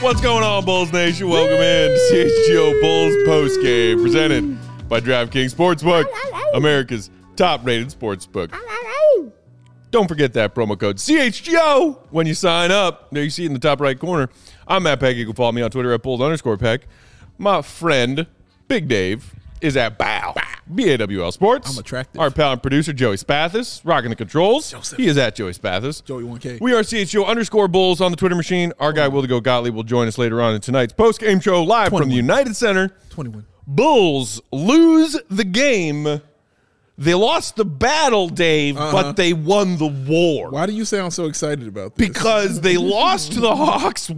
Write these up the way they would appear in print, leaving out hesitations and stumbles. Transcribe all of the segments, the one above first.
What's going on, Bulls Nation? Welcome in to CHGO Bulls postgame, presented by DraftKings Sportsbook, America's top-rated sportsbook. Don't forget that promo code CHGO when you sign up. There you see it in the top right corner. I'm Matt Peck. You can follow me on Twitter at Bulls_Peck. My friend, Big Dave, is at BAWL, BAWL Sports. I'm attractive. Our pal and producer, Joey Spathis, rocking the controls. Joseph. He is at Joey Spathis. Joey 1K. We are CHGO_Bulls on the Twitter machine. Our guy, Will the Go Gottlieb, will join us later on in tonight's post-game show live 21. from the United Center. 21. Bulls lose the game. They lost the battle, Dave, but they won the war. Why do you sound so excited about this? Because they lost to the Hawks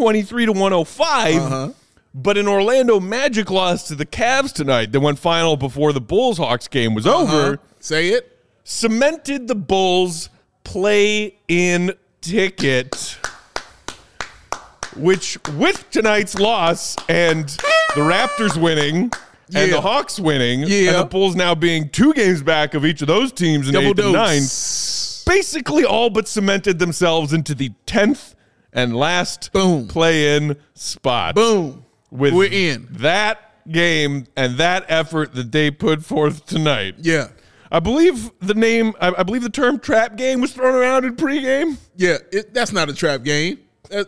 123-105, but an Orlando Magic lost to the Cavs tonight that went final before the Bulls-Hawks game was over. Say it. Cemented the Bulls' play-in ticket, which with tonight's loss and the Raptors winning and the Hawks winning and the Bulls now being 2 games back of each of those teams in 8 and 9, basically all but cemented themselves into the 10th and last play-in spot. Boom. We're in. That game and that effort that they put forth tonight. Yeah. I believe the term trap game was thrown around in pregame. Yeah, that's not a trap game.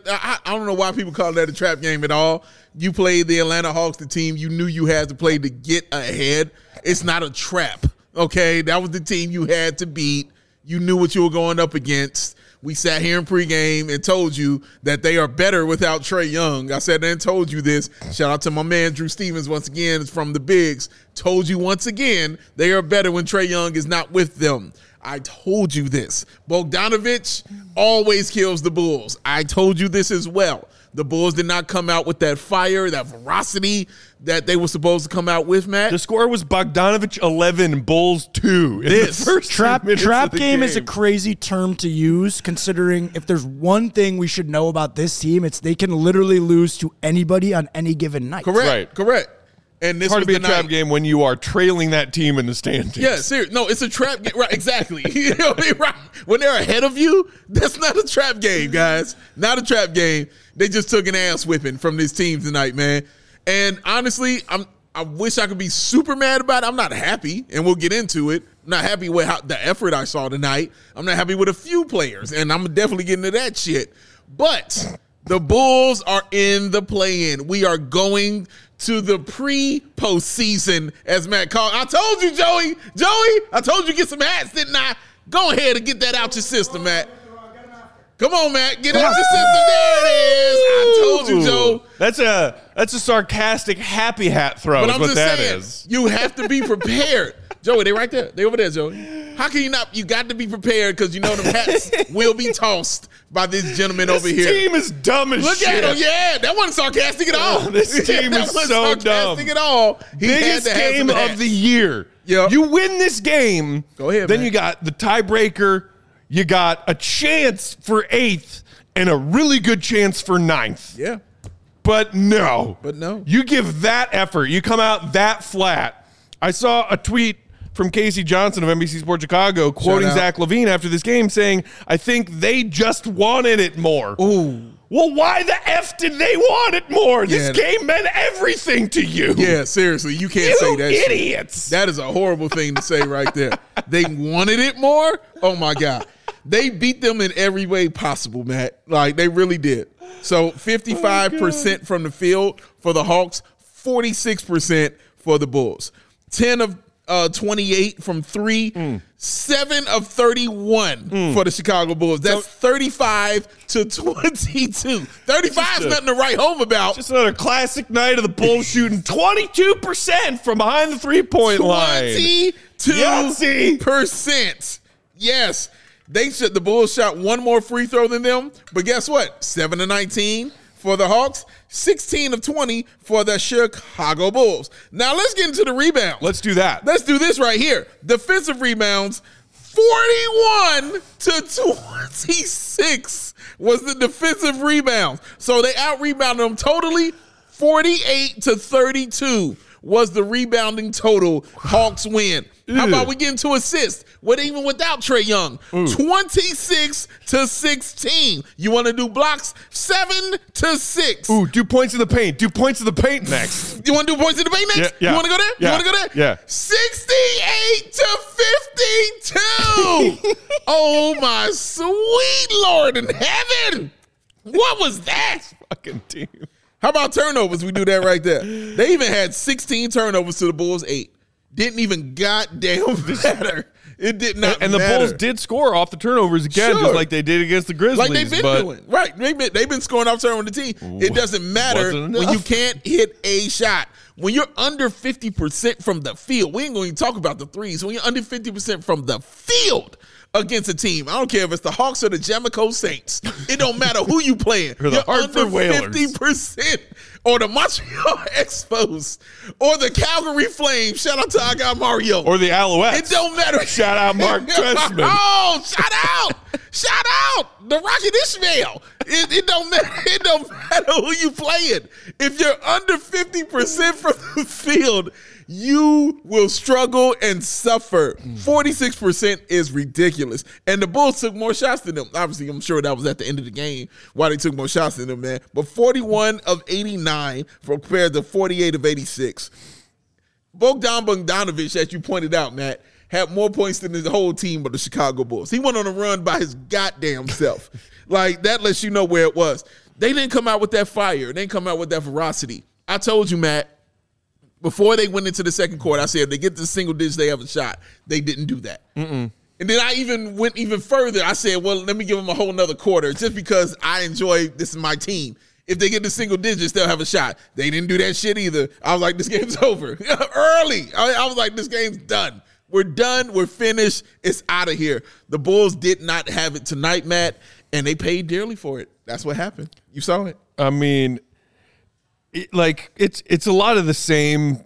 I don't know why people call that a trap game at all. You played the Atlanta Hawks, the team you knew you had to play to get ahead. It's not a trap, okay? That was the team you had to beat. You knew what you were going up against. We sat here in pregame and told you that they are better without Trae Young. I said and told you this. Shout out to my man Drew Stevens once again from the Bigs. Told you once again they are better when Trae Young is not with them. I told you this. Bogdanović always kills the Bulls. I told you this as well. The Bulls did not come out with that fire, that ferocity that they were supposed to come out with, Matt. The score was Bogdanović 11, Bulls 2. This first trap game is a crazy term to use, considering if there's one thing we should know about this team, it's they can literally lose to anybody on any given night. Correct. And this it's hard was to be a trap game when you are trailing that team in the standings. Yeah, seriously. No, it's a trap game. Right, exactly. You know what I mean? Right. When they're ahead of you, that's not a trap game, guys. Not a trap game. They just took an ass whipping from this team tonight, man. And honestly, I wish I could be super mad about it. I'm not happy, and we'll get into it. I'm not happy with the effort I saw tonight. I'm not happy with a few players, and I'm definitely getting to that shit. But the Bulls are in the play-in. We are going to the pre-postseason, as Matt called. I told you, Joey, I told you get some hats, didn't I? Go ahead and get that out your system, Matt. Come on, Matt, get it out your system. There it is. I told you, Joe. That's a sarcastic happy hat throw. But is I'm what just that saying, is. you have to be prepared. Joey, they right there. They over there, Joey. How can you not? You got to be prepared because you know them hats will be tossed by this gentleman over here. This team is dumb as Look shit. at him. Yeah, that wasn't sarcastic at all. This team is so dumb. Sarcastic at all. Biggest game of the year. Yep. You win this game. Go ahead, Then man. you got the tiebreaker. You got a chance for 8th and a really good chance for 9th. Yeah. But no. You give that effort. You come out that flat. I saw a tweet from Casey Johnson of NBC Sports Chicago quoting Zach LaVine after this game saying, I think they just wanted it more. Ooh. Well, why the F did they want it more? This game meant everything to you. Yeah, seriously. You can't say that shit. Idiots. That is a horrible thing to say right there. They wanted it more? Oh, my God. They beat them in every way possible, Matt. Like, they really did. So 55% from the field for the Hawks, 46% for the Bulls. 10 of 28 from 3, 7 of 31 for the Chicago Bulls. That's 35 to 22. 35 is nothing to write home about. Just another classic night of the Bulls shooting 22% from behind the three-point line. 22%. Yes. The Bulls shot one more free throw than them, but guess what? 7 of 19 for the Hawks, 16 of 20 for the Chicago Bulls. Now let's get into the rebound. Let's do that. Let's do this right here. Defensive rebounds, 41 to 26 was the defensive rebounds. So they out-rebounded them totally 48 to 32 was the rebounding total. Hawks win. How about we get into assists? Even without Trae Young, 26-16. You want to do blocks? 7-6. Ooh, do points in the paint. Do points in the paint next. You want to do points in the paint next? Yeah. You want to go there? Yeah. You want to go there? Yeah. 68-52. Oh my sweet Lord in heaven! What was that? Fucking team. How about turnovers? We do that right there. They even had 16 turnovers to the Bulls 8. Didn't even goddamn matter. It did not and the matter. Bulls did score off the turnovers again, Sure. just like they did against the Grizzlies. Like they've been doing. Right. They've been scoring off turnover on the team. It doesn't matter when you can't hit a shot. When you're under 50% from the field, we ain't going to talk about the threes. When you're under 50% from the field against a team, I don't care if it's the Hawks or the Jamico Saints. It don't matter who you playing. Or the You're Hartford under Whalers. 50%. Or the Montreal Expos. Or the Calgary Flames. Shout out to our guy Mario. Or the Alouettes. It don't matter. Shout out Mark Trestman. Oh, shout out. Shout out. The Rocket Ishmael. It don't matter. It don't matter who you playing. If you're under 50% from the field, you will struggle and suffer. 46% is ridiculous. And the Bulls took more shots than them. Obviously, I'm sure that was at the end of the game why they took more shots than them, man. But 41 of 89 compared to 48 of 86. Bogdan Bogdanović, as you pointed out, Matt, had more points than the whole team of the Chicago Bulls. He went on a run by his goddamn self. Like, that lets you know where it was. They didn't come out with that fire. They didn't come out with that ferocity. I told you, Matt, before they went into the second quarter, I said if they get to the single digits, they have a shot. They didn't do that. And then I even went even further. I said, well, let me give them a whole nother quarter just because I enjoy this is my team. If they get to single digits, they'll have a shot. They didn't do that shit either. I was like, this game's over. Early. I was like, this game's done. We're done. We're finished. It's out of here. The Bulls did not have it tonight, Matt, and they paid dearly for it. That's what happened. You saw it. I mean, it's a lot of the same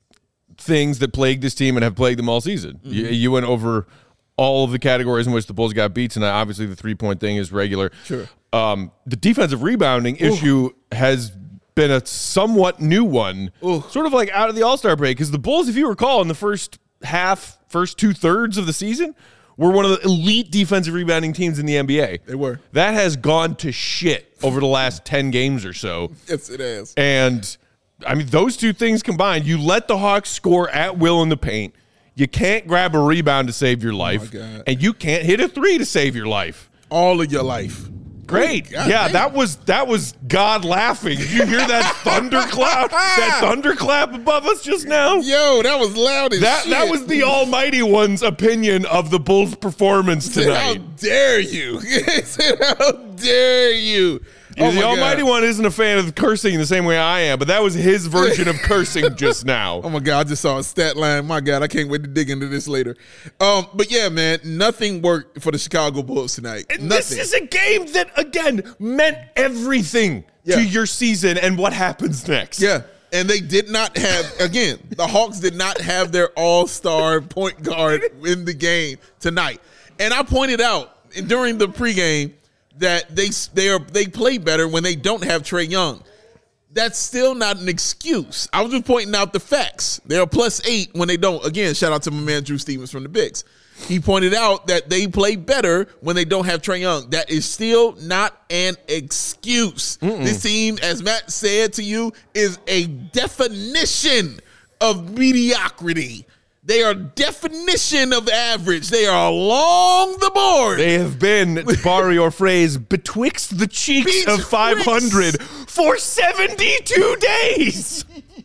things that plague this team and have plagued them all season. You went over all of the categories in which the Bulls got beat tonight. Obviously, the three-point thing is regular. Sure. The defensive rebounding issue has been a somewhat new one, sort of like out of the All-Star break, because the Bulls, if you recall, in the first two-thirds of the season, were one of the elite defensive rebounding teams in the NBA. They were. That has gone to shit over the last 10 games or so. Yes, it has. And, I mean, those two things combined, you let the Hawks score at will in the paint. You can't grab a rebound to save your life. Oh, my God. And you can't hit a three to save your life. All of your life. Great. God, yeah, damn. that was God laughing. Did you hear that thunderclap? That thunderclap above us just now? Yo, that was loud as shit. That was the Almighty One's opinion of the Bulls' performance How tonight. dare you? How dare you? Oh The my Almighty God. One isn't a fan of cursing the same way I am, but that was his version of cursing just now. Oh my God, I just saw a stat line. My God, I can't wait to dig into this later. But yeah, man, nothing worked for the Chicago Bulls tonight. And Nothing. this is a game that, again, meant everything to your season and what happens next. Yeah. And they did not have, again, the Hawks did not have their all-star point guard in the game tonight. And I pointed out during the pregame that they play better when they don't have Trae Young. That's still not an excuse. I was just pointing out the facts. They're +8 when they don't. Again, shout out to my man Drew Stevens from the Bigs. He pointed out that they play better when they don't have Trae Young. That is still not an excuse. This team, as Matt said to you, is a definition of mediocrity. They are definition of average. They are along the board. They have been, to borrow your phrase, betwixt the cheeks of 500 for 72 days.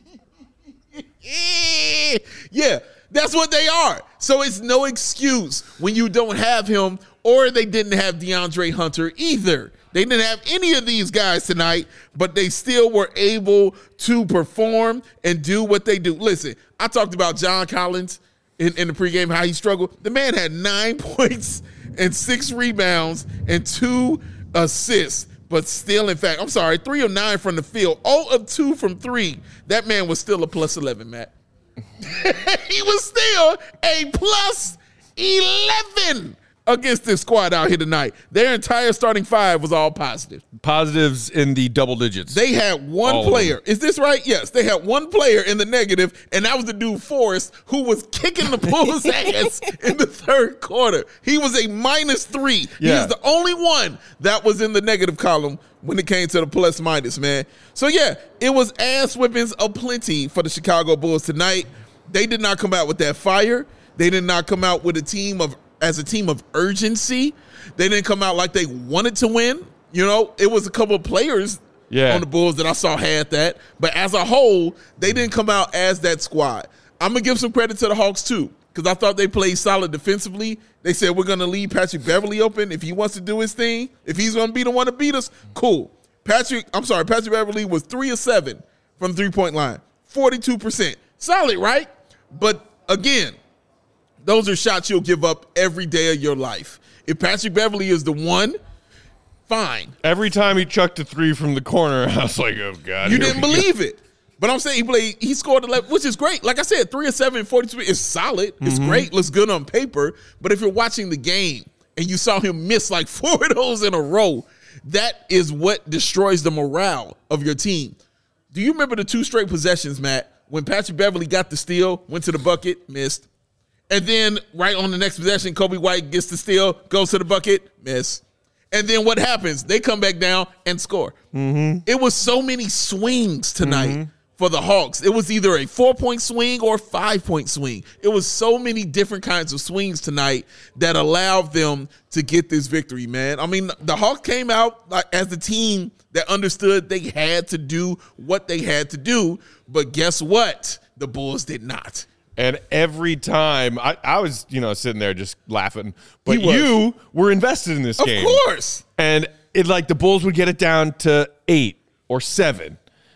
Yeah, that's what they are. So it's no excuse when you don't have him, or they didn't have DeAndre Hunter either. They didn't have any of these guys tonight, but they still were able to perform and do what they do. Listen, I talked about John Collins in the pregame, how he struggled. The man had 9 points and 6 rebounds and 2 assists, but still, in fact, 3 of 9 from the field, 0 of 2 from 3. That man was still a +11, Matt. He was still a +11. against this squad out here tonight. Their entire starting five was all positive. Positives in the double digits. They had one player. Is this right? Yes. They had one player in the negative, and that was the dude Forrest, who was kicking the Bulls' ass in the third quarter. He was a -3. Yeah. He is the only one that was in the negative column when it came to the plus minus, man. So, yeah, it was ass whippings aplenty for the Chicago Bulls tonight. They did not come out with that fire. They did not come out with a team of urgency. They didn't come out like they wanted to win. You know, it was a couple of players on the Bulls that I saw had that. But as a whole, they didn't come out as that squad. I'm going to give some credit to the Hawks, too, because I thought they played solid defensively. They said, we're going to leave Patrick Beverley open if he wants to do his thing. If he's going to be the one to beat us, cool. Patrick Beverley was 3 of 7 from the 3-point line, 42%. Solid, right? But again, those are shots you'll give up every day of your life. If Patrick Beverley is the one, fine. Every time he chucked a 3 from the corner, I was like, oh, God. You didn't believe it. But I'm saying he scored 11, which is great. Like I said, 3 of 7, 42 is solid. It's great. Looks good on paper. But if you're watching the game and you saw him miss like 4 of those in a row, that is what destroys the morale of your team. Do you remember the 2 straight possessions, Matt, when Patrick Beverley got the steal, went to the bucket, missed? And then right on the next possession, Kobe White gets the steal, goes to the bucket, miss. And then what happens? They come back down and score. It was so many swings tonight for the Hawks. It was either a 4-point swing or a 5-point swing. It was so many different kinds of swings tonight that allowed them to get this victory, man. I mean, the Hawks came out as the team that understood they had to do what they had to do. But guess what? The Bulls did not. And every time I was, sitting there just laughing, but you were invested in this game. Of course. And it the Bulls would get it down to 8 or 7.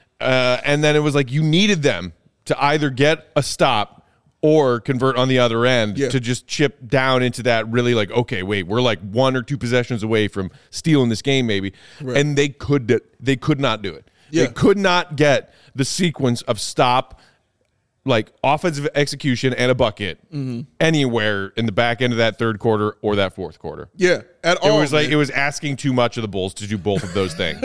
And then it was like you needed them to either get a stop or convert on the other end to just chip down into that really okay, wait, we're 1 or 2 possessions away from stealing this game maybe. Right. And they could not do it. Yeah. They could not get the sequence of stop, offensive execution and a bucket anywhere in the back end of that third quarter or that fourth quarter. Yeah, at all. It was asking too much of the Bulls to do both of those things.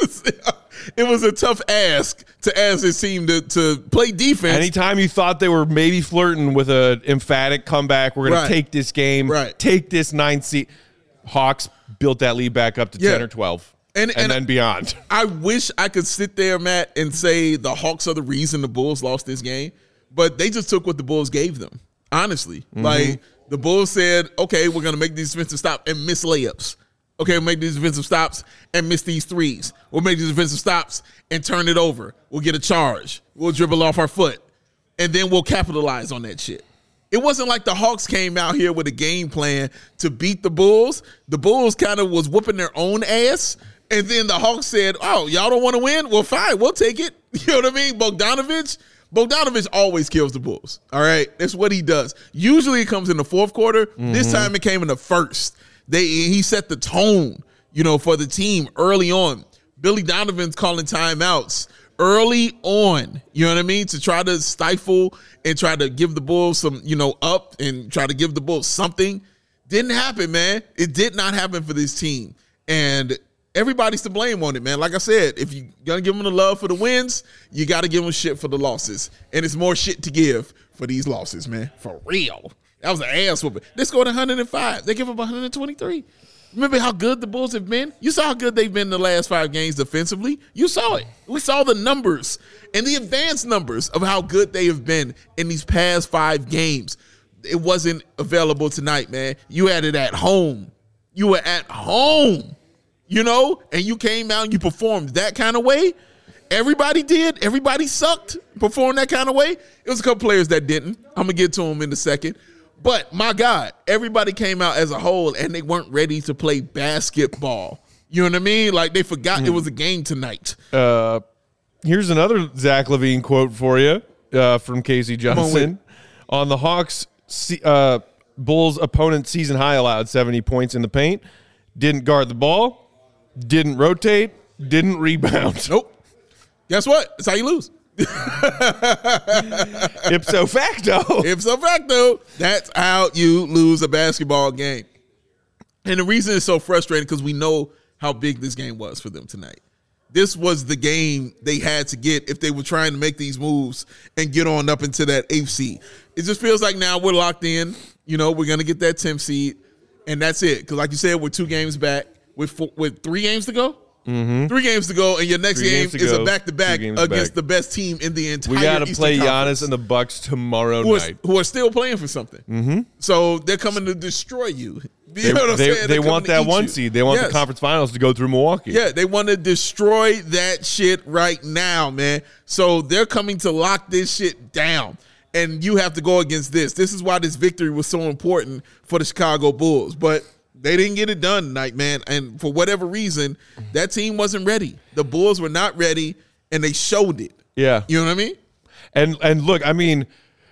It was a tough ask to ask his team to play defense. Anytime you thought they were maybe flirting with an emphatic comeback, we're going to take this game, take this 9 seed. Hawks built that lead back up to 10 or 12. And then beyond. I wish I could sit there, Matt, and say the Hawks are the reason the Bulls lost this game. But they just took what the Bulls gave them, honestly. The Bulls said, okay, we're going to make these defensive stops and miss layups. Okay, we'll make these defensive stops and miss these threes. We'll make these defensive stops and turn it over. We'll get a charge. We'll dribble off our foot. And then we'll capitalize on that shit. It wasn't like the Hawks came out here with a game plan to beat the Bulls. The Bulls kind of was whooping their own ass. And then the Hawks said, oh, y'all don't want to win? Well, fine, we'll take it. You know what I mean? Bogdanovich always kills the Bulls, all right? That's what he does. Usually it comes in the fourth quarter. This time it came in the first. He set the tone, for the team early on. Billy Donovan's calling timeouts early on, you know what I mean, to try to stifle and try to give the Bulls some, up and try to give the Bulls something. Didn't happen, man. It did not happen for this team. And everybody's to blame on it, man. Like I said, if you're going to give them the love for the wins, you got to give them shit for the losses. And it's more shit to give for these losses, man. For real. That was an ass whooping. They scored 105. They give up 123. Remember how good the Bulls have been? You saw how good they've been in the last 5 games defensively. You saw it. We saw the numbers and the advanced numbers of how good they have been in these past 5 games. It wasn't available tonight, man. You had it at home. You were at home. And you came out and you performed that kind of way. Everybody did. Everybody sucked, performed that kind of way. It was a couple players that didn't. I'm going to get to them in a second. But, my God, everybody came out as a whole, and they weren't ready to play basketball. You know what I mean? They forgot it was a game tonight. Here's another Zach LaVine quote for you from Casey Johnson. On the Hawks, Bulls opponent season high allowed 70 points in the paint. Didn't guard the ball. Didn't rotate, didn't rebound. Nope. Guess what? That's how you lose. Ipso facto. Ipso facto. That's how you lose a basketball game. And the reason it's so frustrating because we know how big this game was for them tonight. This was the game they had to get if they were trying to make these moves and get on up into that 8th seed. It just feels like now we're locked in. You know, we're going to get that 10th seed, and that's it. Because like you said, we're 2 games back with 3 games to go. Mm-hmm. 3 games to go, and your next game is a back-to-back against the best team in the entire. We got to play Conference, Giannis and the Bucks tomorrow night, who are still playing for something. Mm-hmm. So they're coming to destroy you. You know what I'm saying? They want that 1 seed. They want the conference finals to go through Milwaukee. Yeah, they want to destroy that shit right now, man. So they're coming to lock this shit down. And you have to go against this. This is why this victory was so important for the Chicago Bulls. But they didn't get it done tonight, man. And for whatever reason, that team wasn't ready. The Bulls were not ready, and they showed it. Yeah. You know what I mean? And look, I mean,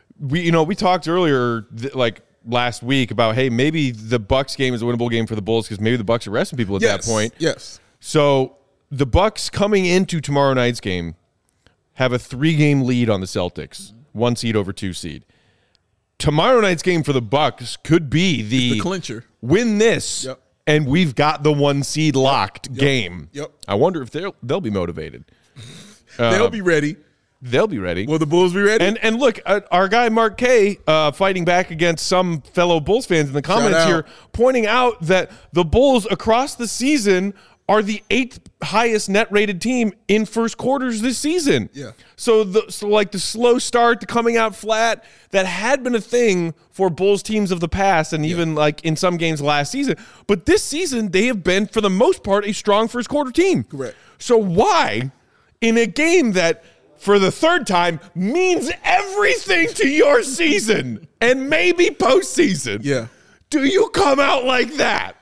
we talked earlier, like last week, about, hey, maybe the Bucks game is a winnable game for the Bulls because maybe the Bucks are resting people at that point. Yes. So the Bucks coming into tomorrow night's game have a 3-game lead on the Celtics, 1 seed over 2 seed. Tomorrow night's game for the Bucks could be the clincher. Win this, and we've got the 1 seed locked game. Yep. I wonder if they'll be motivated. They'll be ready. They'll be ready. Will the Bulls be ready? And look, our guy Mark K fighting back against some fellow Bulls fans in the comments here, pointing out that the Bulls across the season are the 8th highest net rated team in first quarters this season. Yeah. So the slow start, the coming out flat, that had been a thing for Bulls teams of the past, and even like in some games last season. But this season, they have been, for the most part, a strong first quarter team. Correct. So why, in a game that, for the 3rd time, means everything to your season and maybe postseason, do you come out like that?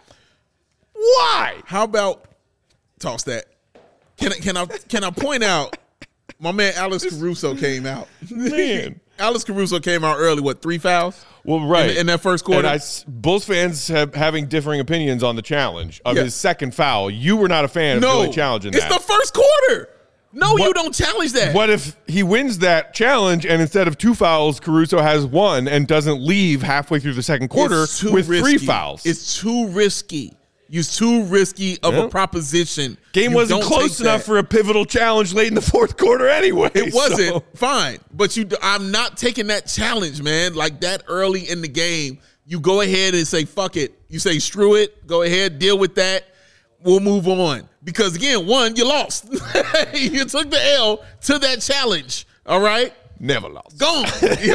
Why? How about toss that? Can I point out my man Alex Caruso came out. Man. Alex Caruso came out early, 3 fouls? Well, right. In that first quarter. And Bulls fans having differing opinions on the challenge of his second foul. You were not a fan of really challenging that. It's the first quarter. No, you don't challenge that. What if he wins that challenge and instead of 2 fouls, Caruso has 1 and doesn't leave halfway through the second quarter with risky. 3 fouls? It's too risky. It's too risky of a proposition. Game wasn't close enough for a pivotal challenge late in the 4th quarter anyway. It wasn't. Fine. But I'm not taking that challenge, man. Like that early in the game, you go ahead and say, fuck it. You say, screw it. Go ahead, deal with that. We'll move on. Because, again, 1, you lost. You took the L to that challenge, all right? Never lost. Gone.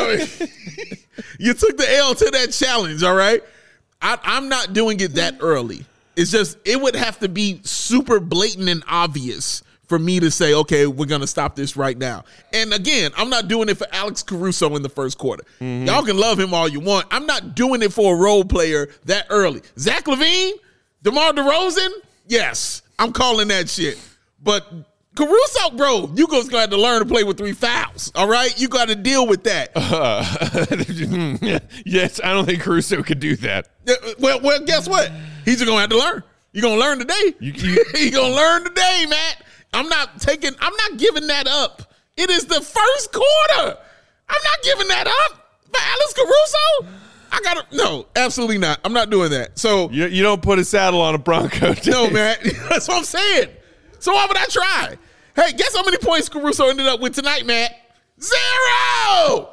You took the L to that challenge, all right? I'm not doing it that early. It's just, it would have to be super blatant and obvious for me to say, okay, we're going to stop this right now. And again, I'm not doing it for Alex Caruso in the first quarter. Mm-hmm. Y'all can love him all you want. I'm not doing it for a role player that early. Zach LaVine, DeMar DeRozan, yes, I'm calling that shit. But Caruso, bro, you just got to learn to play with 3 fouls, all right? You got to deal with that. Yes, I don't think Caruso could do that. Well, guess what? He's just going to have to learn. You're going to learn today. You're going to learn today, Matt. I'm not giving that up. It is the first quarter. I'm not giving that up for Alex Caruso. No, absolutely not. I'm not doing that. So you don't put a saddle on a Bronco. No, man. That's what I'm saying. So why would I try? Hey, guess how many points Caruso ended up with tonight, Matt? 0!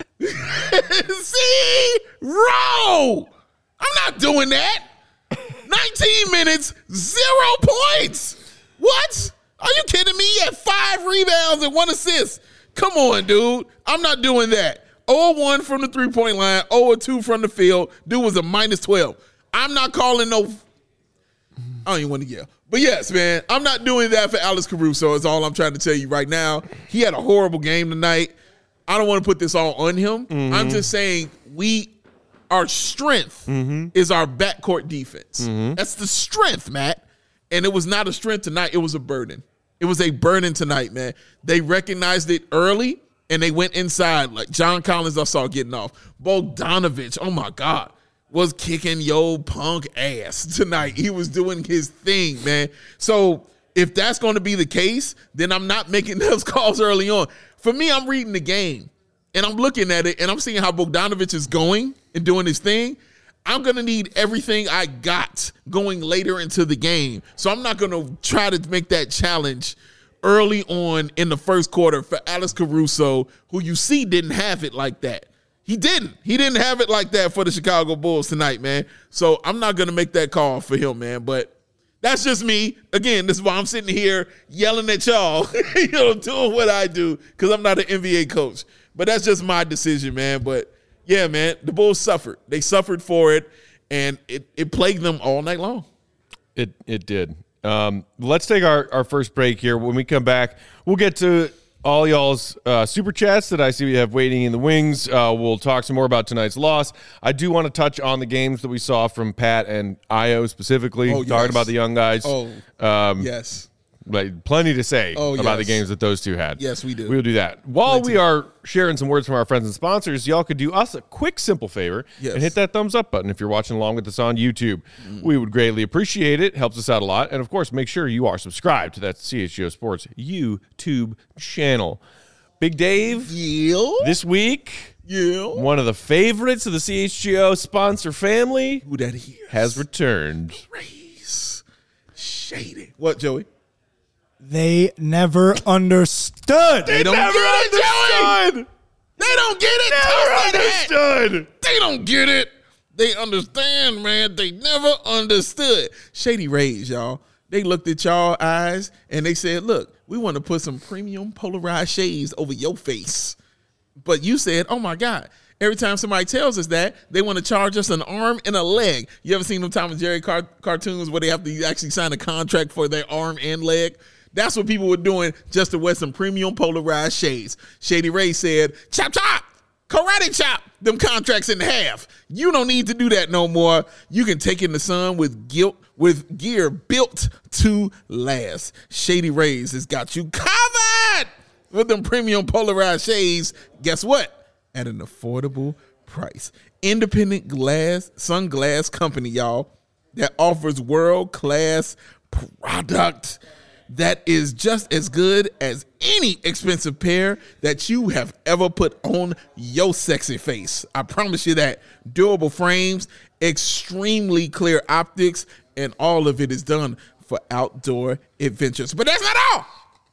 0! I'm not doing that. 19 minutes, 0 points. What? Are you kidding me? He had 5 rebounds and 1 assist. Come on, dude. I'm not doing that. 0-1 from the 3-point line, 0-2 from the field. Dude was a -12. I'm not calling no. I don't even want to yell. But yes, man, I'm not doing that for Alex Caruso is all I'm trying to tell you right now. He had a horrible game tonight. I don't want to put this all on him. Mm-hmm. I'm just saying our strength is our backcourt defense. Mm-hmm. That's the strength, Matt. And it was not a strength tonight. It was a burden. It was a burden tonight, man. They recognized it early, and they went inside. Like John Collins, I saw getting off. Bogdanovich, oh, my God, was kicking yo punk ass tonight. He was doing his thing, man. So if that's going to be the case, then I'm not making those calls early on. For me, I'm reading the game, and I'm looking at it, and I'm seeing how Bogdanovich is going and doing his thing. I'm going to need everything I got going later into the game. So I'm not going to try to make that challenge early on in the first quarter for Alex Caruso, who you see didn't have it like that. He didn't have it like that for the Chicago Bulls tonight, man. So I'm not going to make that call for him, man. But that's just me. Again, this is why I'm sitting here yelling at y'all, doing what I do, because I'm not an NBA coach. But that's just my decision, man. But yeah, man, the Bulls suffered. They suffered for it, and it plagued them all night long. It did. Let's take our first break here. When we come back, we'll get to all y'all's super chats that I see we have waiting in the wings. We'll talk some more about tonight's loss. I do want to touch on the games that we saw from Pat and Io specifically, talking about the young guys. Yes. Like, plenty to say about the games that those two had. Yes, we do. We will do that. While we are sharing some words from our friends and sponsors, y'all could do us a quick, simple favor and hit that thumbs up button if you're watching along with us on YouTube. We would greatly appreciate it. Helps us out a lot. And, of course, make sure you are subscribed to that CHGO Sports YouTube channel. Big Dave, this week, one of the favorites of the CHGO sponsor family has returned. Shady. What, Joey? They never understood. They don't get it, Joey. They don't get it. Never understood. They don't get it. They understand, man. They never understood. Shady Rays, y'all. They looked at y'all eyes and they said, look, we want to put some premium polarized shades over your face. But you said, oh, my God. Every time somebody tells us that, they want to charge us an arm and a leg. You ever seen them Tom and Jerry cartoons where they have to actually sign a contract for their arm and leg? That's what people were doing just to wear some premium polarized shades. Shady Ray said, chop, chop, karate chop them contracts in half. You don't need to do that no more. You can take in the sun with gear built to last. Shady Rays has got you covered with them premium polarized shades. Guess what? At an affordable price. Independent sunglass company, y'all, that offers world-class product that is just as good as any expensive pair that you have ever put on your sexy face. I promise you that. Durable frames, extremely clear optics, and all of it is done for outdoor adventures. But that's not all.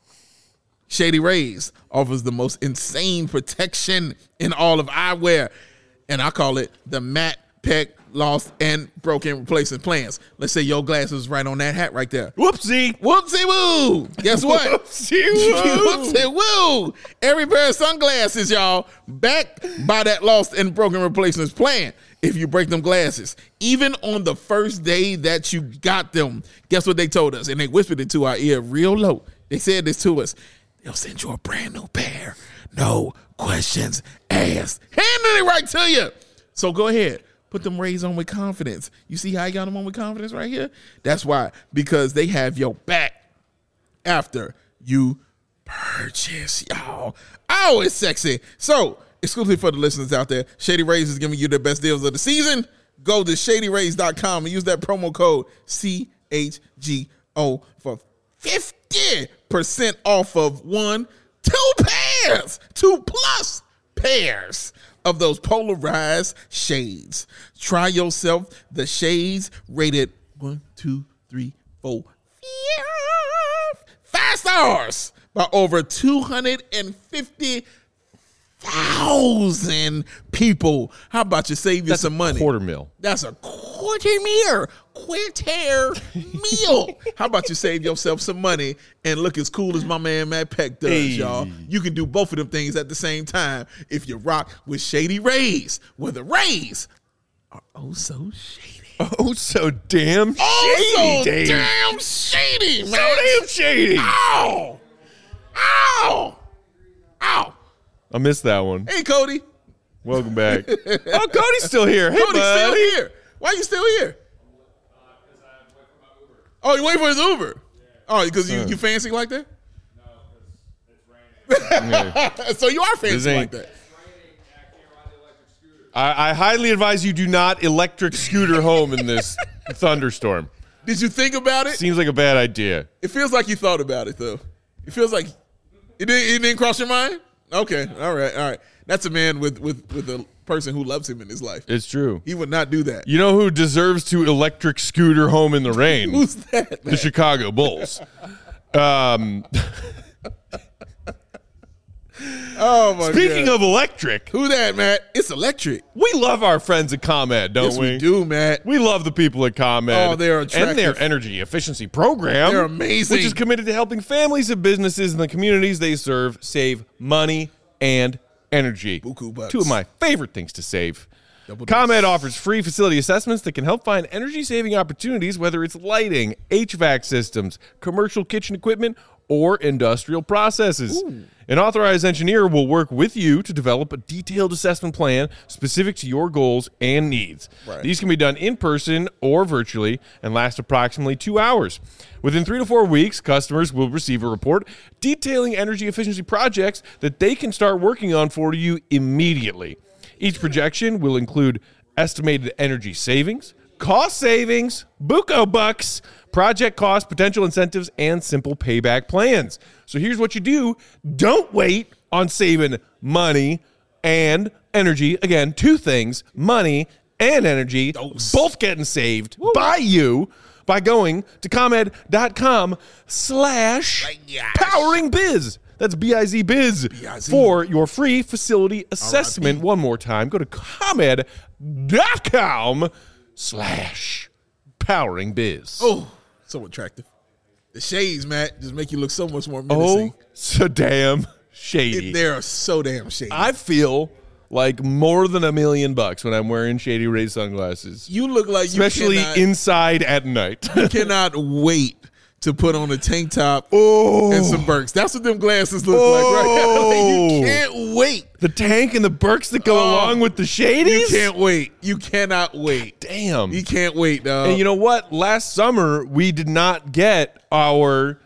Shady Rays offers the most insane protection in all of eyewear, and I call it the matte, pec, lost, and broken replacement plans. Let's say your glasses right on that hat right there. Whoopsie. Whoopsie woo. Guess what? Whoopsie woo. Whoopsie woo. Every pair of sunglasses, y'all, backed by that lost and broken replacements plan. If you break them glasses, even on the first day that you got them, guess what they told us? And they whispered it to our ear real low. They said this to us. They'll send you a brand new pair. No questions asked. Handing it right to you. So go ahead. Put them Rays on with confidence. You see how I got them on with confidence right here? That's why. Because they have your back after you purchase, y'all. Oh, it's sexy. So, exclusively for the listeners out there, Shady Rays is giving you the best deals of the season. Go to shadyrays.com and use that promo code CHGO for 50% off of two plus pairs of those polarized shades. Try yourself the shades rated 5 stars by over 250,000 people. How about you save you some money? $250,000. That's a quarter meal. How about you save yourself some money and look as cool as my man Matt Peck does, y'all? You can do both of them things at the same time if you rock with Shady Rays, where the Rays are oh so shady. Oh, so damn shady, Dave. Damn shady, man. So damn shady. Ow. Ow. Ow. I missed that one. Hey, Cody. Welcome back. Oh, Cody's still here. Hey, Cody's bud. still here. Why are you still here? Oh, you waiting for his Uber? Oh, because you fancy like that? No, because it's raining. Yeah. So you are fancy like that. It's raining, and I can't ride the electric scooter. I highly advise you do not electric scooter home in this thunderstorm. Did you think about it? Seems like a bad idea. It feels like you thought about it, though. It feels like it didn't cross your mind? Okay, all right. That's a man with a person who loves him in his life. It's true. He would not do that. You know who deserves to electric scooter home in the rain? Who's that, man? The Chicago Bulls. Oh my Speaking God. of electric, Who that, Matt? It's electric. we love our friends at ComEd, don't Yes, we? we do, Matt. We love the people at ComEd. Oh, they're and attractive. their energy efficiency program. They're amazing. Which is committed to helping families and businesses in the communities they serve save money and energy. Buku bucks. Two of my favorite things to save. Double ComEd offers free facility assessments that can help find energy-saving opportunities, whether it's lighting, HVAC systems, commercial kitchen equipment, or industrial processes. An authorized engineer will work with you to develop a detailed assessment plan specific to your goals and needs. Right. These can be done in person or virtually and last approximately 2 hours. Within 3 to 4 weeks, customers will receive a report detailing energy efficiency projects that they can start working on for you immediately. Each projection will include estimated energy savings, cost savings, buco bucks, project cost, potential incentives, and simple payback plans. So here's what you do. Don't wait on saving money and energy. Again, two things, money and energy, both getting saved by you by going to ComEd.com/poweringbiz. That's B-I-Z biz for your free facility assessment. One more time, go to ComEd.com/poweringbiz. Oh, so attractive. The shades, Matt, just make you look so much more menacing. Oh, so damn shady. They are so damn shady. I feel like more than $1 million when I'm wearing Shady Rays sunglasses, You look like especially you cannot, inside at night. cannot wait to put on a tank top Oh. and some Birks. That's what them glasses look like right now. You can't wait. The tank and the Birks that go along with the Shadies? You can't wait. You cannot wait. Damn. You can't wait, dog. And you know what? Last summer, we did not get our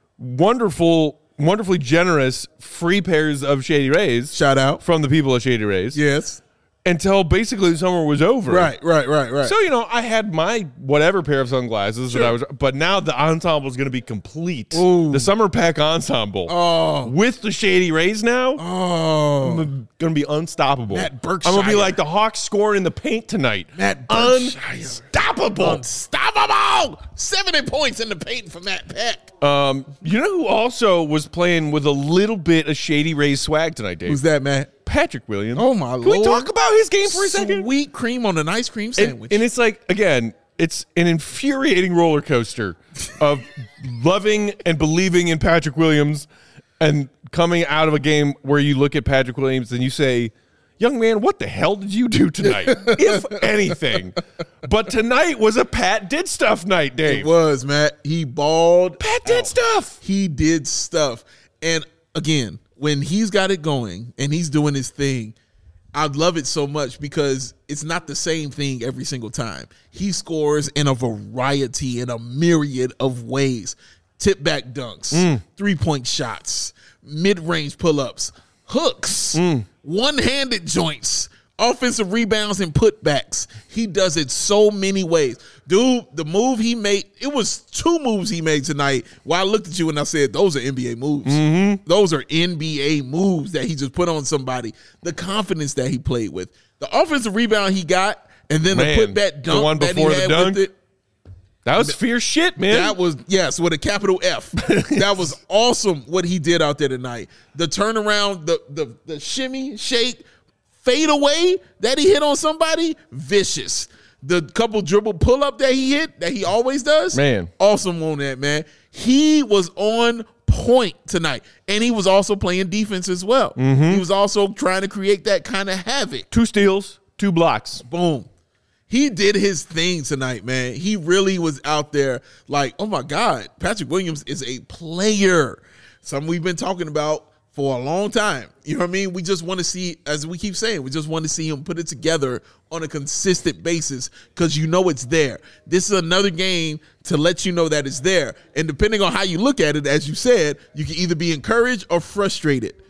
wonderfully generous free pairs of Shady Rays Shout out. from the people at Shady Rays Yes. until basically the summer was over. Right. So, I had my whatever pair of sunglasses that I was, but now the ensemble is going to be complete. Ooh. The summer pack ensemble with the Shady Rays now. Oh. I'm going to be unstoppable. Matt Berkshire. I'm going to be like the Hawks scoring in the paint tonight. Matt Berkshire. Unstoppable. Unstoppable. 70 points in the paint for Matt Peck. You know who also was playing with a little bit of Shady Rays swag tonight, Dave? Who's that, Matt? Patrick Williams. Oh, my Can Lord. we talk about his game for a second? Sweet cream on an ice cream sandwich. And it's like, again, it's an infuriating roller coaster of loving and believing in Patrick Williams and coming out of a game where you look at Patrick Williams and you say, young man, what the hell did you do tonight? If anything. But tonight was a Pat did stuff night, Dave. It was, Matt. He balled. Pat did out. stuff. He did stuff. And again, when he's got it going and he's doing his thing, I love it so much because it's not the same thing every single time. He scores in a variety, in a myriad of ways. Tip back dunks, 3-point shots, mid-range pull-ups, hooks, one-handed joints, offensive rebounds and putbacks. He does it so many ways. Dude, the move he made, it was 2 moves he made tonight where I looked at you and I said, those are NBA moves. Those are NBA moves that he just put on somebody. The confidence that he played with. The offensive rebound he got, and then Man, the putback dunk the one that he before the had dunk? with it. That was fierce shit, man. That was, yes, with a capital F. That was awesome what he did out there tonight. The turnaround, the shimmy, shake, fade away that he hit on somebody, vicious. The couple dribble pull up that he hit, that he always does, Man. awesome on that, man. He was on point tonight, and he was also playing defense as well. He was also trying to create that kind of havoc. 2 steals, 2 blocks. Boom. He did his thing tonight, man. He really was out there like, oh, my God, Patrick Williams is a player. Something we've been talking about for a long time. You know what I mean? We just want to see, as we keep saying, we just want to see him put it together on a consistent basis because you know it's there. This is another game to let you know that it's there. And depending on how you look at it, as you said, you can either be encouraged or frustrated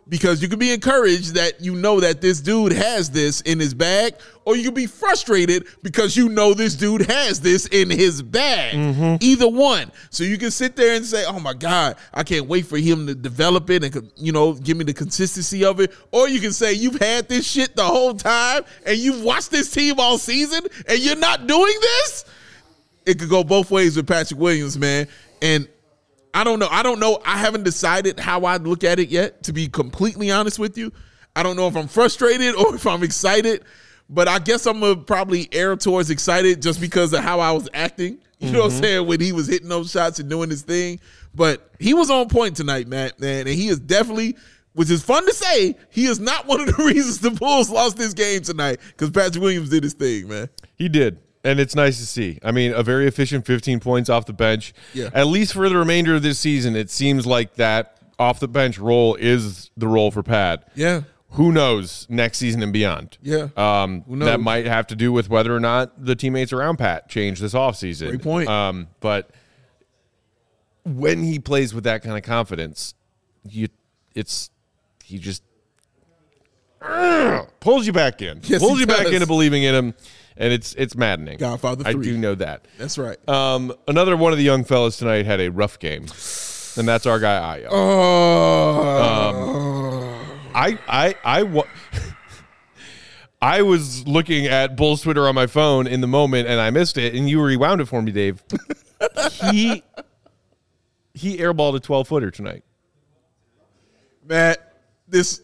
because you can be encouraged that you know that this dude has this in his bag, or you can be frustrated because you know this dude has this in his bag. Either one. So you can sit there and say, oh my God, I can't wait for him to develop it and, you know, give me the consistency of it. Or you can say you've had this shit the whole time and you've watched this team all season and you're not doing this. It could go both ways with Patrick Williams, man. And I don't know. I haven't decided how I'd look at it yet, to be completely honest with you. I don't know if I'm frustrated or if I'm excited, but I guess I'm going to probably err towards excited just because of how I was acting. You know what I'm saying? When he was hitting those shots and doing his thing. But he was on point tonight, man. And he is definitely, which is fun to say, he is not one of the reasons the Bulls lost this game tonight, because Patrick Williams did his thing, man. He did. And it's nice to see. I mean, a very efficient 15 points off the bench. Yeah. At least for the remainder of this season, it seems like that off-the-bench role is the role for Pat. Yeah. Who knows next season and beyond? Yeah. Who knows? That might have to do with whether or not the teammates around Pat change this offseason. Great point. But when he plays with that kind of confidence, he just pulls you back in. Yes, pulls he you back does. into believing in him. And it's maddening. Godfather I 3. do know that. That's right. Another one of the young fellas tonight had a rough game, and that's our guy Ayo. I was looking at Bulls Twitter on my phone in the moment, and I missed it, and you rewound it for me, Dave. He airballed a 12-footer tonight. Matt, this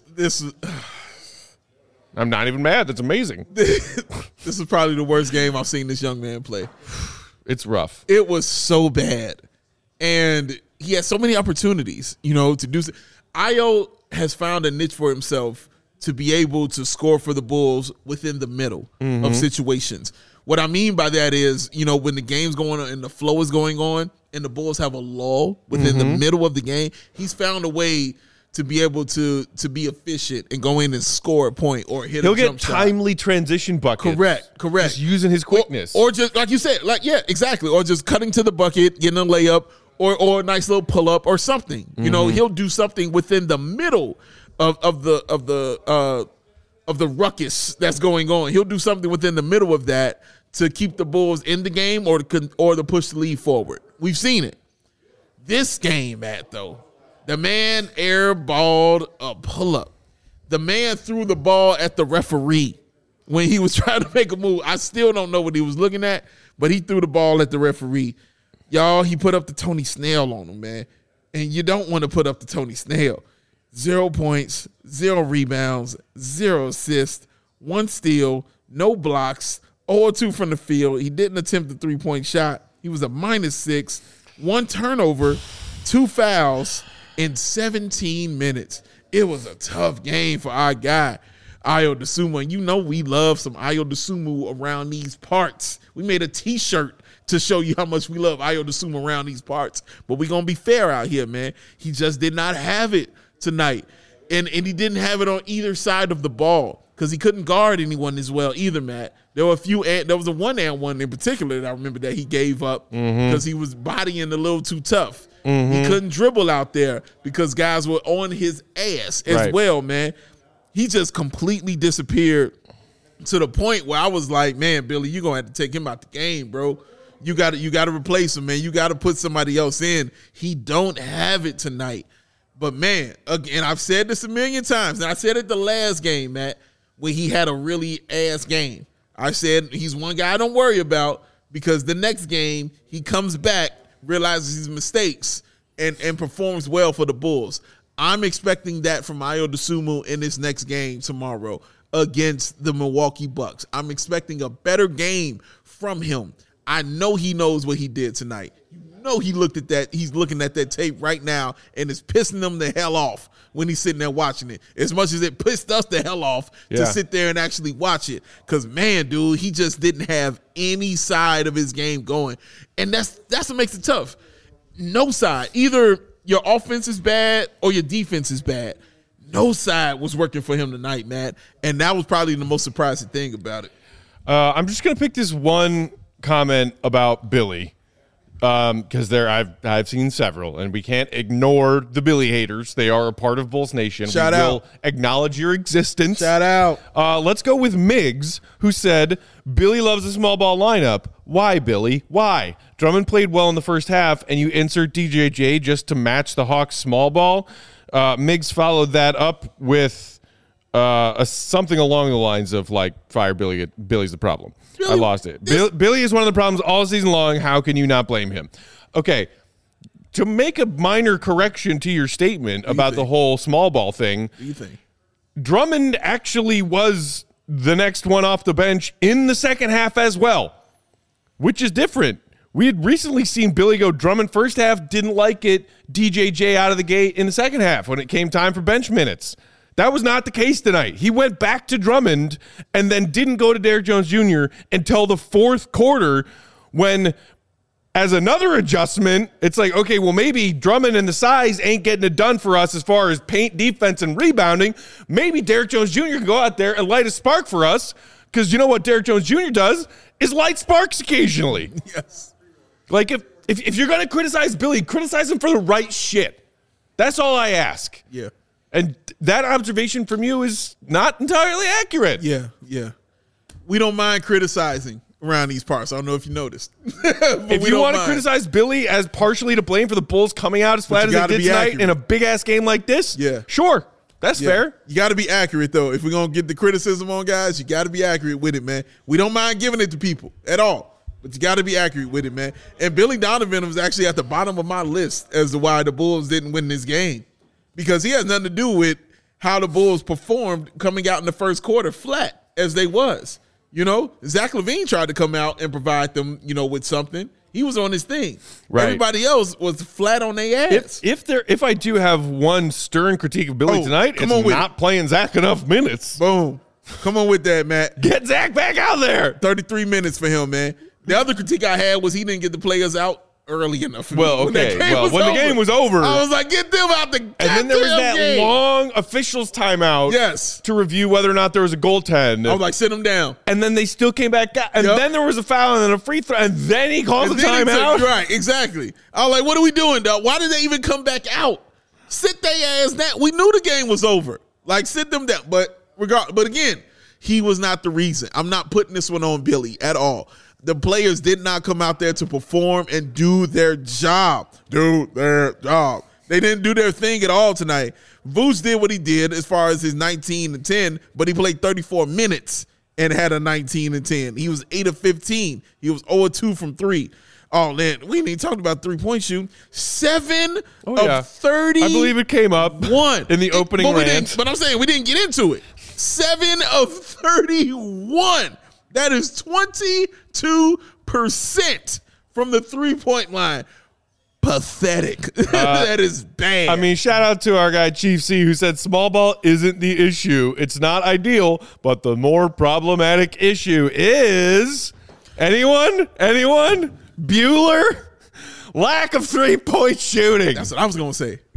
I'm not even mad. That's amazing. this is probably the worst game I've seen this young man play. It's rough. It was so bad. And he had so many opportunities, you know, to do so. Ayo has found a niche for himself to be able to score for the Bulls within the middle of situations. What I mean by that is, you know, when the game's going on and the flow is going on and the Bulls have a lull within the middle of the game, he's found a way to be able to be efficient and go in and score a point or hit He'll a jump get shot. timely transition buckets. Correct. Just using his quickness. Or just, like you said, exactly. Or just cutting to the bucket, getting a layup, or a nice little pull up or something. You know, he'll do something within the middle of the ruckus that's going on. He'll do something within the middle of that to keep the Bulls in the game or to push the lead forward. We've seen it. This game, Matt, though, the man airballed a pull-up. The man threw the ball at the referee when he was trying to make a move. I still don't know what he was looking at, but he threw the ball at the referee. Y'all, he put up the Tony Snell on him, man. And you don't want to put up the Tony Snell. 0 points, 0 rebounds, 0 assists, 1 steal, no blocks, 0-2 from the field. He didn't attempt the three-point shot. He was a -6, 1 turnover, 2 fouls in 17 minutes. It was a tough game for our guy, Ayo Dosunmu. And you know we love some Ayo Dosunmu around these parts. We made a T-shirt to show you how much we love Ayo Dosunmu around these parts. But we're going to be fair out here, man. He just did not have it tonight. And he didn't have it on either side of the ball because he couldn't guard anyone as well either, Matt. There were a few, there was a one-and-one in particular that I remember that he gave up because he was bodying a little too tough. He couldn't dribble out there because guys were on his ass as well, man. He just completely disappeared to the point where I was like, man, Billy, you're going to have to take him out the game, bro. You got to replace him, man. You got to put somebody else in. He don't have it tonight. But, man, again, I've said this a million times, and I said it the last game, Matt, when he had a really ass game. I said he's one guy I don't worry about because the next game he comes back, realizes his mistakes, and performs well for the Bulls. I'm expecting that from Ayo Dosunmu in this next game tomorrow against the Milwaukee Bucks. I'm expecting a better game from him. I know he knows what he did tonight. You know he looked at that. He's looking at that tape right now, and it's pissing him the hell off when he's sitting there watching it. As much as it pissed us the hell off to sit there and actually watch it. Because, man, dude, he just didn't have any side of his game going. And that's what makes it tough. No side. Either your offense is bad or your defense is bad. No side was working for him tonight, Matt. And that was probably the most surprising thing about it. I'm just going to pick this one comment about Billy Because I've seen several, and we can't ignore the Billy haters. They are a part of Bulls Nation. Shout we out. will acknowledge your existence. Shout out. Let's go with Miggs, who said, Billy loves a small ball lineup. Why, Billy? Why? Drummond played well in the first half, and you insert DJJ just to match the Hawks' small ball. Miggs followed that up with something along the lines of, like, fire Billy. Billy's the problem. I lost it. Billy is one of the problems all season long. How can you not blame him? Okay, to make a minor correction to your statement about the whole small ball thing, What do you think? Drummond actually was the next one off the bench in the second half as well, which is different. We had recently seen Billy go Drummond first half, didn't like it, DJJ out of the gate in the second half when it came time for bench minutes. That was not the case tonight. He went back to Drummond and then didn't go to Derrick Jones Jr. until the fourth quarter when, as another adjustment, it's like, okay, well, maybe Drummond and the size ain't getting it done for us as far as paint, defense, and rebounding. Maybe Derrick Jones Jr. can go out there and light a spark for us, because you know what Derrick Jones Jr. does is light sparks occasionally. Yes. Like, if you're going to criticize Billy, criticize him for the right shit. That's all I ask. Yeah. And that observation from you is not entirely accurate. Yeah. Yeah. We don't mind criticizing around these parts. I don't know if you noticed. If you want to criticize Billy as partially to blame for the Bulls coming out as flat as they did tonight in a big-ass game like this, sure. That's fair. You got to be accurate, though. If we're going to get the criticism on guys, you got to be accurate with it, man. We don't mind giving it to people at all, but you got to be accurate with it, man. And Billy Donovan was actually at the bottom of my list as to why the Bulls didn't win this game, because he has nothing to do with how the Bulls performed coming out in the first quarter flat as they was. You know, Zach LaVine tried to come out and provide them, with something. He was on his thing. Right. Everybody else was flat on their ass. If I do have one stern critique of Billy tonight, it's not playing Zach enough minutes. Boom. Come on with that, Matt. Get Zach back out there. 33 minutes for him, man. The other critique I had was he didn't get the players out early enough. Well, okay. When the game was over, I was like, get them out the and then there was that game. long officials timeout. Yes. To review whether or not there was a goaltend. I was like, sit him down. And then they still came back out. And then there was a foul and then a free throw. And then he called the timeout. Right, exactly. I was like, what are we doing, dog? Why did they even come back out? Sit their ass down. We knew the game was over. Like, sit them down. But again, he was not the reason. I'm not putting this one on Billy at all. The players did not come out there to perform and do their job. They didn't do their thing at all tonight. Vooch did what he did as far as his 19 and 10, but he played 34 minutes and had a 19 and 10. He was 8 of 15. He was 0 of 2 from 3. Oh, man, we ain't even talked about three-point shooting. 7 of 30. I believe it came up in the opening rant. But I'm saying we didn't get into it. 7 of 31. That is 22% from the three-point line. Pathetic. That is bad. I mean, shout out to our guy Chief C, who said small ball isn't the issue. It's not ideal, but the more problematic issue is anyone? Bueller? Lack of three-point shooting. That's what I was going to say.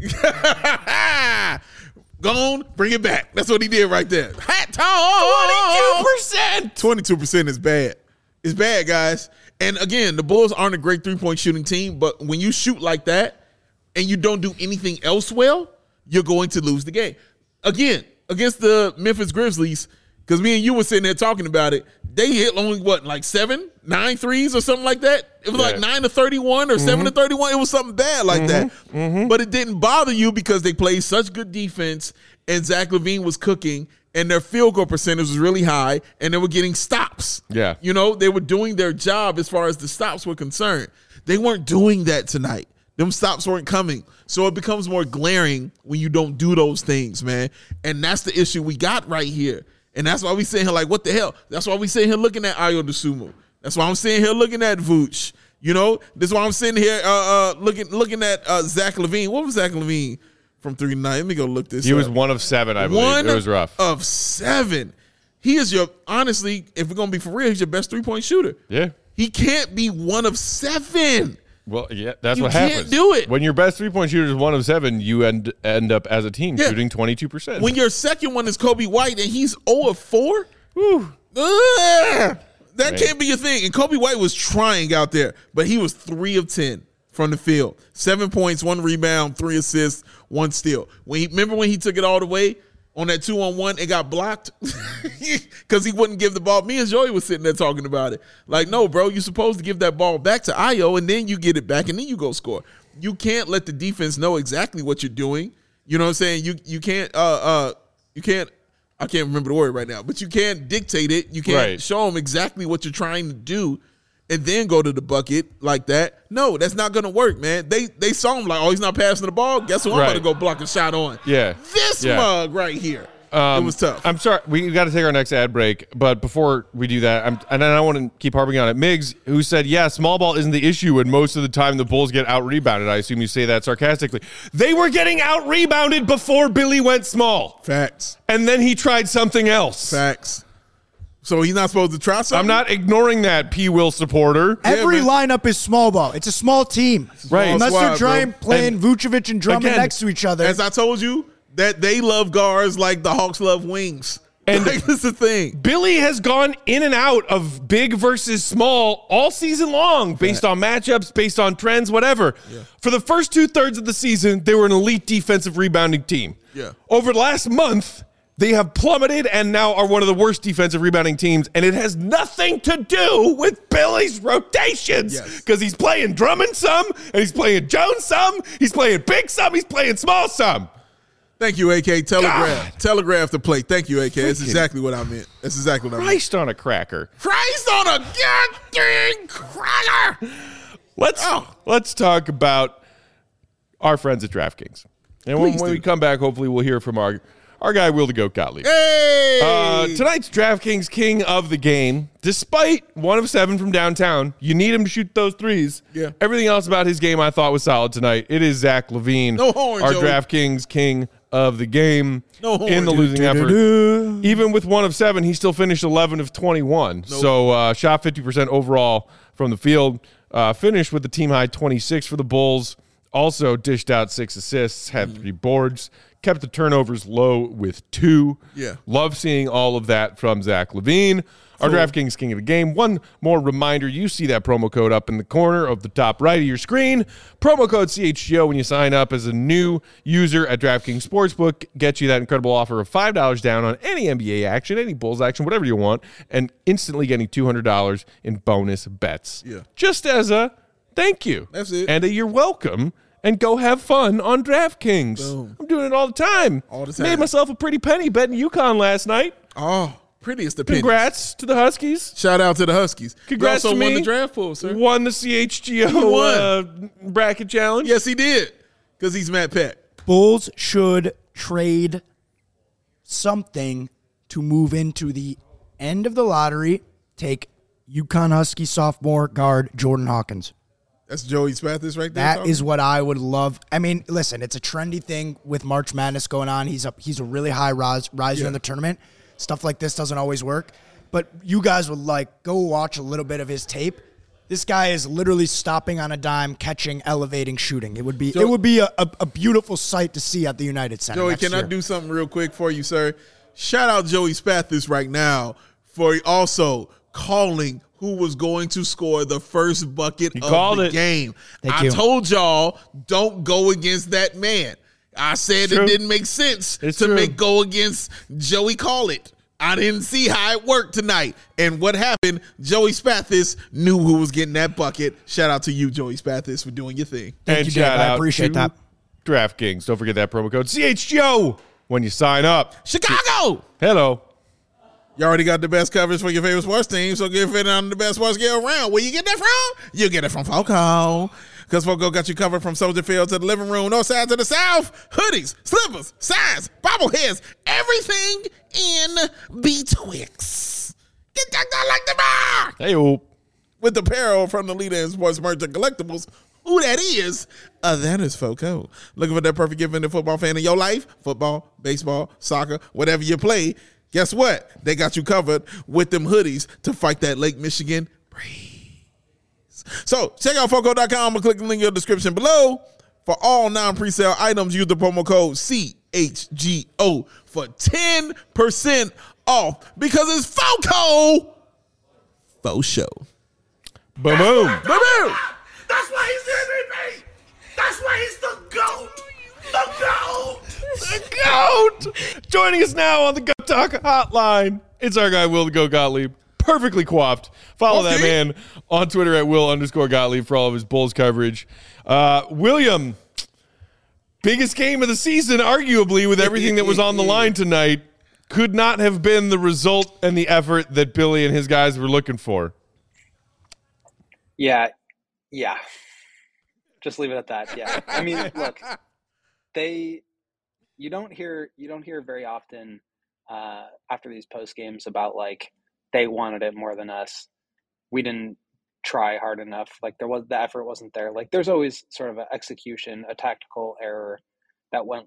Gone, bring it back. That's what he did right there. Hat tall. 22%. 22% is bad. It's bad, guys. And again, the Bulls aren't a great three-point shooting team, but when you shoot like that and you don't do anything else well, you're going to lose the game. Again, against the Memphis Grizzlies, because me and you were sitting there talking about it, they hit only, 9 threes or something like that? It was like 9 to 31 or 7 to 31. It was something bad like that. But it didn't bother you because they played such good defense and Zach LaVine was cooking and their field goal percentage was really high and they were getting stops. Yeah. They were doing their job as far as the stops were concerned. They weren't doing that tonight. Them stops weren't coming. So it becomes more glaring when you don't do those things, man. And that's the issue we got right here. And that's why we sitting here like, what the hell? That's why we sitting here looking at Ayo DeSumo. That's why I'm sitting here looking at Vooch. This is why I'm sitting here looking at Zach LaVine. What was Zach LaVine from 3 to 9? Let me go look this up. He was 1 of 7, I believe. It was rough. 1 of 7. He is honestly, if we're going to be for real, he's your best three-point shooter. Yeah. He can't be 1 of 7. Well, yeah, that's You what can't happens. do it. When your best three-point shooter is 1 of 7, you end up as a team shooting 22%. When your second one is Kobe White and he's 0 of 4, That Right. can't be a thing. And Kobe White was trying out there, but he was 3 of 10 from the field. 7 points, 1 rebound, 3 assists, 1 steal. Remember when he took it all the way on that 2-on-1, it got blocked because he wouldn't give the ball. Me and Joey was sitting there talking about it. Like, no, bro, you're supposed to give that ball back to Ayo, and then you get it back, and then you go score. You can't let the defense know exactly what you're doing. You know what I'm saying? You can't I can't remember the word right now, but you can't dictate it. You can't show them exactly what you're trying to do and then go to the bucket like that. No, that's not going to work, man. They saw him like, oh, he's not passing the ball. Guess who I'm going to go block a shot on? Yeah. This mug right here. It was tough. I'm sorry. We got to take our next ad break. But before we do that, and I don't want to keep harping on it. Miggs, who said, yeah, small ball isn't the issue, and most of the time the Bulls get out-rebounded. I assume you say that sarcastically. They were getting out-rebounded before Billy went small. Facts. And then he tried something else. Facts. So he's not supposed to try something? I'm not ignoring that, P. Will supporter. Every lineup is small ball. It's a small team. Right. Unless squad, they're trying playing Vucevic and Drummond again, next to each other. As I told you, that they love guards like the Hawks love wings. And like, that's the thing. Billy has gone in and out of big versus small all season long based on matchups, based on trends, whatever. Yeah. For the first 2/3 of the season, they were an elite defensive rebounding team. Yeah. Over the last month, they have plummeted and now are one of the worst defensive rebounding teams, and it has nothing to do with Billy's rotations because he's playing Drummond some, and he's playing Jones some, he's playing big some, he's playing small some. Thank you, AK. Telegraph the play. Thank you, AK. That's exactly what I meant. That's exactly what I meant. Christ on a cracker. Christ on a goddamn cracker. Let's talk about our friends at DraftKings. And when we come back, hopefully we'll hear from our guy, Will the Goat Gottlieb. Hey! Tonight's DraftKings king of the game, despite 1 of 7 from downtown, you need him to shoot those threes. Yeah. Everything else about his game I thought was solid tonight. It is Zach LaVine, No horn, our Joey. DraftKings king of the game No horn, in the dude. losing effort. Even with 1 of 7, he still finished 11 of 21. Nope. So shot 50% overall from the field. Finished with the team high 26 for the Bulls. Also dished out 6 assists, had 3 boards, kept the turnovers low with 2. Yeah. Love seeing all of that from Zach LaVine. Our DraftKings king of the game. One more reminder, you see that promo code up in the corner of the top right of your screen. Promo code CHGO when you sign up as a new user at DraftKings Sportsbook. Get you that incredible offer of $5 down on any NBA action, any Bulls action, whatever you want, and instantly getting $200 in bonus bets. Yeah. Just as a thank you. That's it. And you're welcome. And go have fun on DraftKings. Boom. I'm doing it all the time. All the time. Made myself a pretty penny betting UConn last night. Oh, prettiest the pennies. Congrats to the Huskies. Shout out to the Huskies. Congrats you also to won me. the draft pool, sir. Won the CHGO bracket challenge. Yes, he did. Because he's Matt Peck. Bulls should trade something to move into the end of the lottery. Take UConn Husky sophomore guard Jordan Hawkins. That's Joey Spathis right there. That is what I would love. I mean, listen, it's a trendy thing with March Madness going on. He's a really high riser in the tournament. Stuff like this doesn't always work. But you guys would go watch a little bit of his tape. This guy is literally stopping on a dime, catching, elevating, shooting. It would be a beautiful sight to see at the United Center. Joey, can I do something real quick for you, sir? Shout out Joey Spathis right now for also calling who was going to score the first bucket of the game. I told y'all, don't go against that man. I said it didn't make sense to go against Joey Call It. I didn't see how it worked tonight. And what happened, Joey Spathis knew who was getting that bucket. Shout out to you, Joey Spathis, for doing your thing. Thank you, Dave. I appreciate that. DraftKings. Don't forget that promo code CHGO when you sign up. Chicago! Hello. You already got the best coverage for your favorite sports team, so get fit on the best sports gear around. Where you get that from? You get it from Foco. Because Foco got you covered from Soldier Field to the living room, north side to the south. Hoodies, slippers, signs, bobbleheads, everything in betwixt. Get that guy like the bar. Hey-o. With apparel from the leader in sports merch and collectibles. Who that is? That is Foco. Looking for that perfect gift in the football fan in your life? Football, baseball, soccer, whatever you play. Guess what? They got you covered with them hoodies to fight that Lake Michigan breeze. So check out Foco.com and click the link in the description below. For all non-presale items, use the promo code CHGO for 10% off because it's Foco. Faux show. Boom, boom. Boom. That's why he's the MVP. That's why he's the GOAT. The GOAT. The GOAT! Joining us now on the Go Talk Hotline, it's our guy, Will the Go Gottlieb. Perfectly coiffed. Follow that man on Twitter at Will_Gottlieb for all of his Bulls coverage. William, biggest game of the season, arguably, with everything that was on the line tonight, could not have been the result and the effort that Billy and his guys were looking for. Yeah. Just leave it at that. Yeah. I mean, look, you don't hear very often after these post games about like they wanted it more than us. We didn't try hard enough. Like the effort wasn't there. Like there's always sort of an execution, a tactical error that went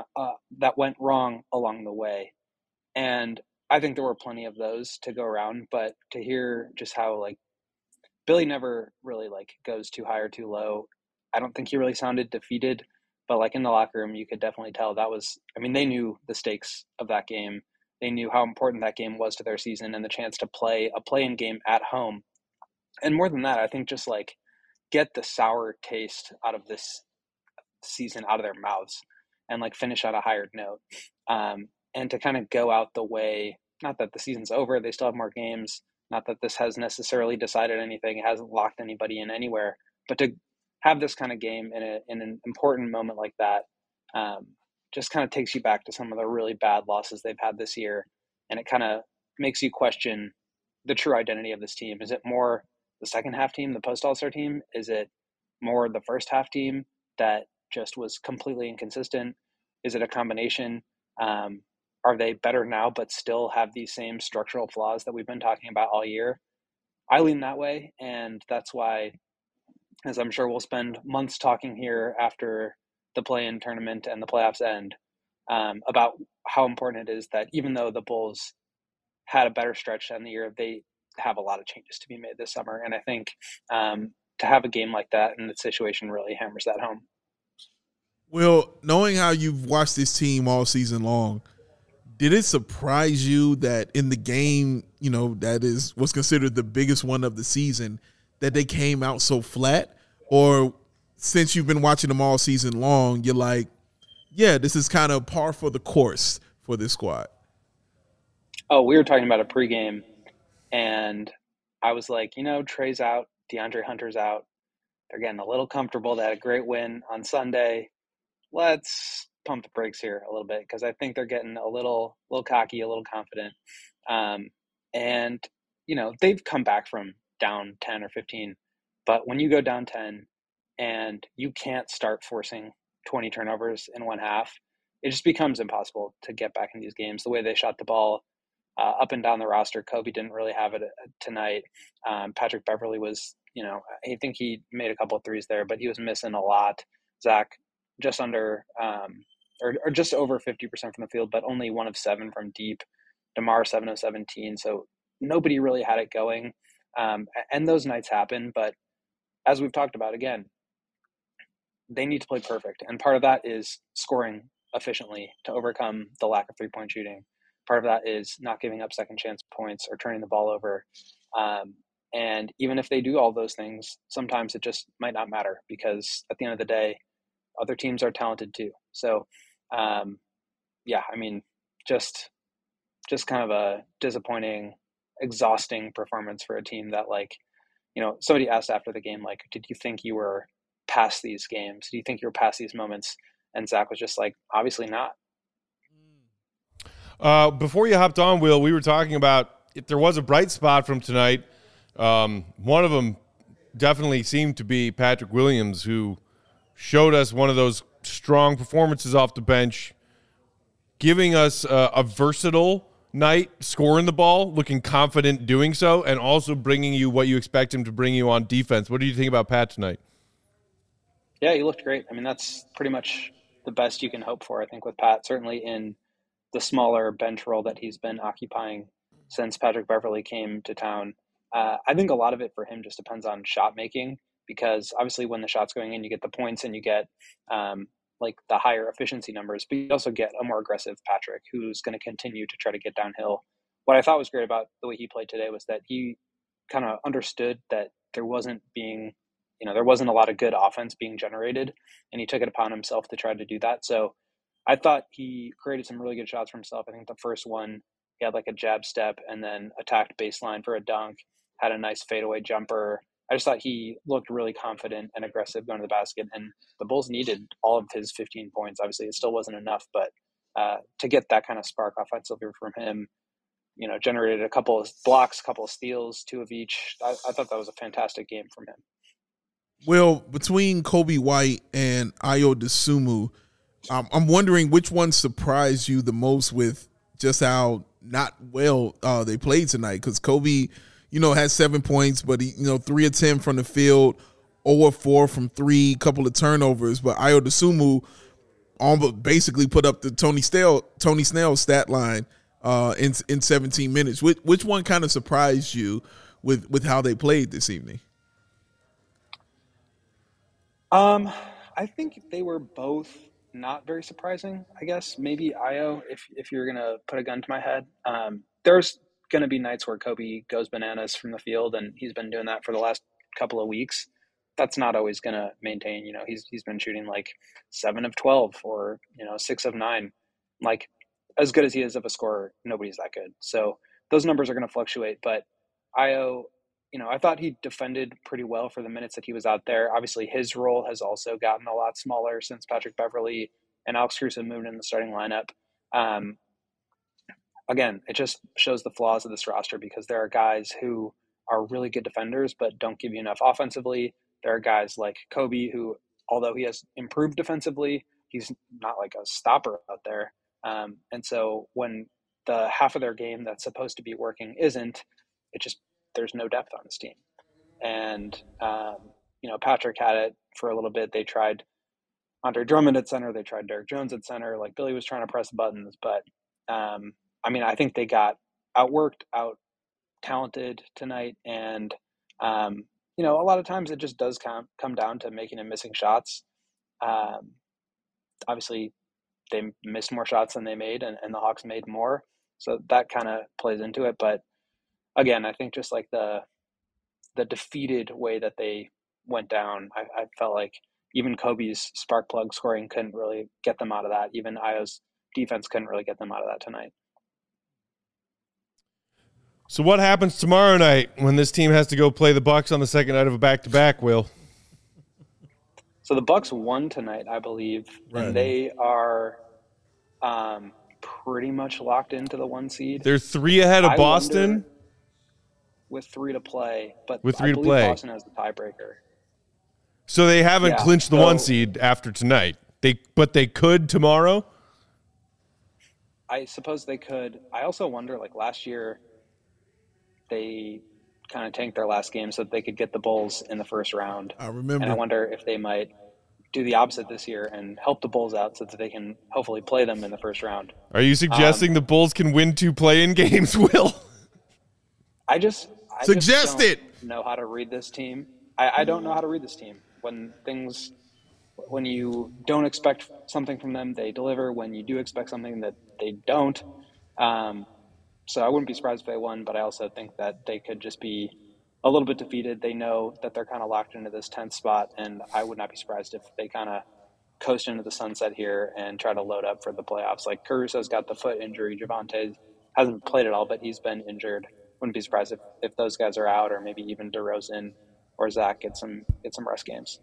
wrong along the way. And I think there were plenty of those to go around, but to hear just how like Billy never really like goes too high or too low. I don't think he really sounded defeated, but like in the locker room, you could definitely tell they knew the stakes of that game. They knew how important that game was to their season and the chance to play a play-in game at home. And more than that, I think just like get the sour taste out of this season out of their mouths and like finish on a higher note. And to kind of go out the way, not that the season's over, they still have more games, not that this has necessarily decided anything, it hasn't locked anybody in anywhere, but to have this kind of game in an important moment like that just kind of takes you back to some of the really bad losses they've had this year. And it kind of makes you question the true identity of this team. Is it more the second half team, the post All-Star team? Is it more the first half team that just was completely inconsistent? Is it a combination? Are they better now, but still have these same structural flaws that we've been talking about all year? I lean that way. And that's why, as I'm sure we'll spend months talking here after the play-in tournament and the playoffs end, about how important it is that even though the Bulls had a better stretch to end the year, they have a lot of changes to be made this summer. And I think to have a game like that in the situation really hammers that home. Well, knowing how you've watched this team all season long, did it surprise you that in the game, that is what's considered the biggest one of the season, that they came out so flat? Or since you've been watching them all season long, you're like, yeah, this is kind of par for the course for this squad? Oh, we were talking about a pregame, and I was like, Trey's out, DeAndre Hunter's out. They're getting a little comfortable. They had a great win on Sunday. Let's pump the brakes here a little bit because I think they're getting a little cocky, a little confident. And, they've come back from down 10 or 15. But when you go down 10 and you can't start forcing 20 turnovers in one half, it just becomes impossible to get back in these games. The way they shot the ball up and down the roster, Kobe didn't really have it tonight. Patrick Beverly was, I think he made a couple of threes there, but he was missing a lot. Zach just under or just over 50% from the field, but only 1 of 7 from deep. DeMar 7 of 17. So nobody really had it going. And those nights happen, but as we've talked about, again, they need to play perfect. And part of that is scoring efficiently to overcome the lack of three-point shooting. Part of that is not giving up second chance points or turning the ball over. And even if they do all those things, sometimes it just might not matter because at the end of the day, other teams are talented too. So, just kind of a disappointing, exhausting performance for a team that, like, somebody asked after the game, like, did you think you were past these games? Do you think you were past these moments? And Zach was just like, obviously not. Before you hopped on, Will, we were talking about if there was a bright spot from tonight. One of them definitely seemed to be Patrick Williams, who showed us one of those strong performances off the bench, giving us a versatile night, scoring the ball, looking confident doing so, and also bringing you what you expect him to bring you on defense. What do you think about Pat tonight? Yeah, he looked great. I mean, that's pretty much the best you can hope for, I think, with Pat, certainly in the smaller bench role that he's been occupying since Patrick Beverly came to town. I think a lot of it for him just depends on shot making, because obviously when the shot's going in, you get the points and you get like the higher efficiency numbers, but you also get a more aggressive Patrick who's going to continue to try to get downhill. What I thought was great about the way he played today was that he kind of understood that there wasn't a lot of good offense being generated, and he took it upon himself to try to do that. So I thought he created some really good shots for himself. I think the first one, he had like a jab step and then attacked baseline for a dunk, had a nice fadeaway jumper. I just thought he looked really confident and aggressive going to the basket, and the Bulls needed all of his 15 points. Obviously, it still wasn't enough, but to get that kind of spark offensively from him, generated a couple of blocks, a couple of steals, 2 of each. I thought that was a fantastic game from him. Well, between Kobe White and Ayo Dosunmu, I'm wondering which one surprised you the most with just how not well they played tonight. Because Kobe, had 7 points, but he, 3 of 10 from the field, 0 of 4 from 3, couple of turnovers. But Ayo Dosunmu almost basically put up the Tony Snell stat line in 17 minutes. Which one kind of surprised you with how they played this evening? I think they were both not very surprising, I guess. Maybe Ayo, if you're going to put a gun to my head. There's going to be nights where Kobe goes bananas from the field, and he's been doing that for the last couple of weeks. That's not always going to maintain. He's been shooting like 7 of 12 or 6 of 9. Like, as good as he is of a scorer, nobody's that good. So those numbers are going to fluctuate. But Ayo, I thought he defended pretty well for the minutes that he was out there. Obviously, his role has also gotten a lot smaller since Patrick Beverley and Alex Caruso moved in the starting lineup. Again, it just shows the flaws of this roster because there are guys who are really good defenders but don't give you enough offensively. There are guys like Kobe who, although he has improved defensively, he's not like a stopper out there. And so when the half of their game that's supposed to be working isn't, there's no depth on this team. And, Patrick had it for a little bit. They tried Andre Drummond at center. They tried Derek Jones at center. Like, Billy was trying to press buttons. But, I think they got outworked, out-talented tonight. And, a lot of times it just does come down to making and missing shots. Obviously, they missed more shots than they made, and the Hawks made more. So that kind of plays into it. But, again, I think just like the defeated way that they went down, I felt like even Kobe's spark plug scoring couldn't really get them out of that. Even Ayo's defense couldn't really get them out of that tonight. So what happens tomorrow night when this team has to go play the Bucks on the second night of a back-to-back, Will? So the Bucks won tonight, I believe, right. And they are pretty much locked into the 1 seed. They're 3 ahead of Boston. With 3 to play, but with 3 I to believe play, Boston has the tiebreaker. So they haven't clinched the 1 seed after tonight. But they could tomorrow. I suppose they could. I also wonder, like last year, they kind of tanked their last game so that they could get the Bulls in the first round. I remember. And I wonder if they might do the opposite this year and help the Bulls out so that they can hopefully play them in the first round. Are you suggesting the Bulls can win 2 play-in games, Will? I just don't know how to read this team. I don't know how to read this team. When you don't expect something from them, they deliver. When you do expect something, that they don't. So I wouldn't be surprised if they won, but I also think that they could just be a little bit defeated. They know that they're kind of locked into this 10th spot, and I would not be surprised if they kind of coast into the sunset here and try to load up for the playoffs. Like, Caruso's got the foot injury. Javonte hasn't played at all, but he's been injured. Wouldn't be surprised if those guys are out, or maybe even DeRozan or Zach get some rest games.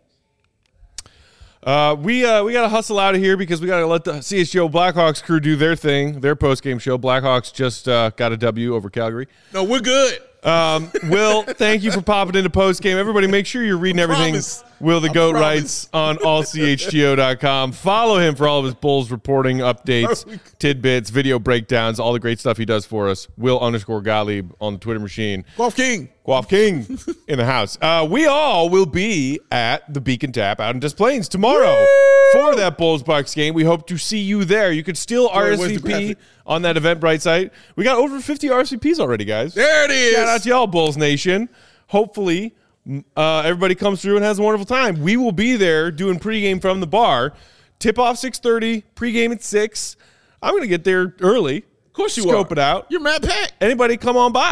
We got to hustle out of here because we got to let the CHGO Blackhawks crew do their thing, their post-game show. Blackhawks just got a W over Calgary. No, we're good. Will, thank you for popping into post-game. Everybody, make sure you're reading everything Will the Goat writes on allchgo.com. Follow him for all of his Bulls reporting, updates, tidbits, video breakdowns, all the great stuff he does for us. Will_Gottlieb on the Twitter machine. Guelph King in the house. We all will be at the Beacon Tap out in Des Plaines tomorrow for that Bulls-Bucks game. We hope to see you there. You could still RSVP on that Eventbrite site. We got over 50 RSVPs already, guys. There it is. Shout out to y'all, Bulls Nation. Hopefully, everybody comes through and has a wonderful time. We will be there doing pregame from the bar. Tip-off 6:30, pregame at 6. I'm going to get there early. Of course you Scope it out. You're Matt Peck. Anybody come on by.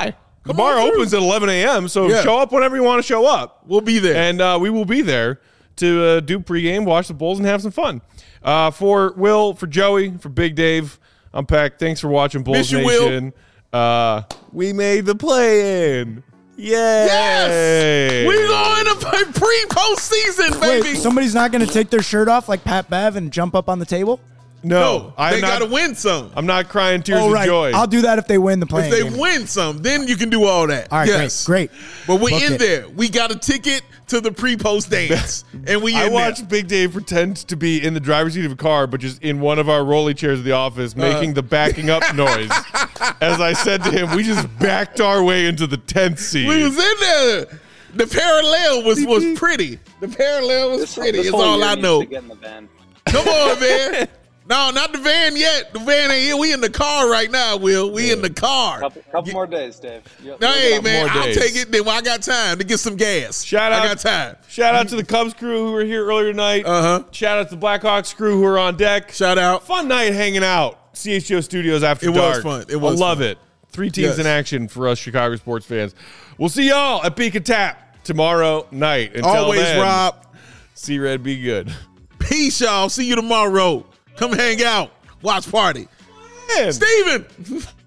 The bar opens at 11 a.m., so show up whenever you want to show up. We'll be there. And we will be there to do pregame, watch the Bulls, and have some fun. For Will, for Joey, for Big Dave, I'm Peck. Thanks for watching Bulls Nation. We made the play-in. Yay! Yes! We're going to pre-postseason, baby. Wait, somebody's not going to take their shirt off like Pat Bev and jump up on the table? No, they got to win some. I'm not crying tears of joy. I'll do that if they win the play-in If they game. win some, then you can do all that. All right, great. But we in there. We got a ticket to the pre-post dance, and I watched Big Dave pretend to be in the driver's seat of a car, but just in one of our rolly chairs of the office, making the backing up noise. As I said to him, we just backed our way into the 10th seat. We was in there. The parallel was pretty. The parallel was pretty. It's all I know. To get in the van. Come on, man. No, not the van yet. The van ain't here. We in the car right now, Will. We in the car. Couple more days, Dave. Hey, man, I'll take it then when I got time to get some gas. I got time. Shout out to the Cubs crew who were here earlier tonight. Shout out to the Blackhawks crew who were on deck. Shout out. Fun night hanging out. CHGO Studios after dark. It was fun. It was I love fun. it. 3 teams in action for us Chicago sports fans. We'll see y'all at Beacon Tap tomorrow night. Until Always, then, Rob. See Red, be good. Peace, y'all. See you tomorrow. Come hang out. Watch party. Man. Steven.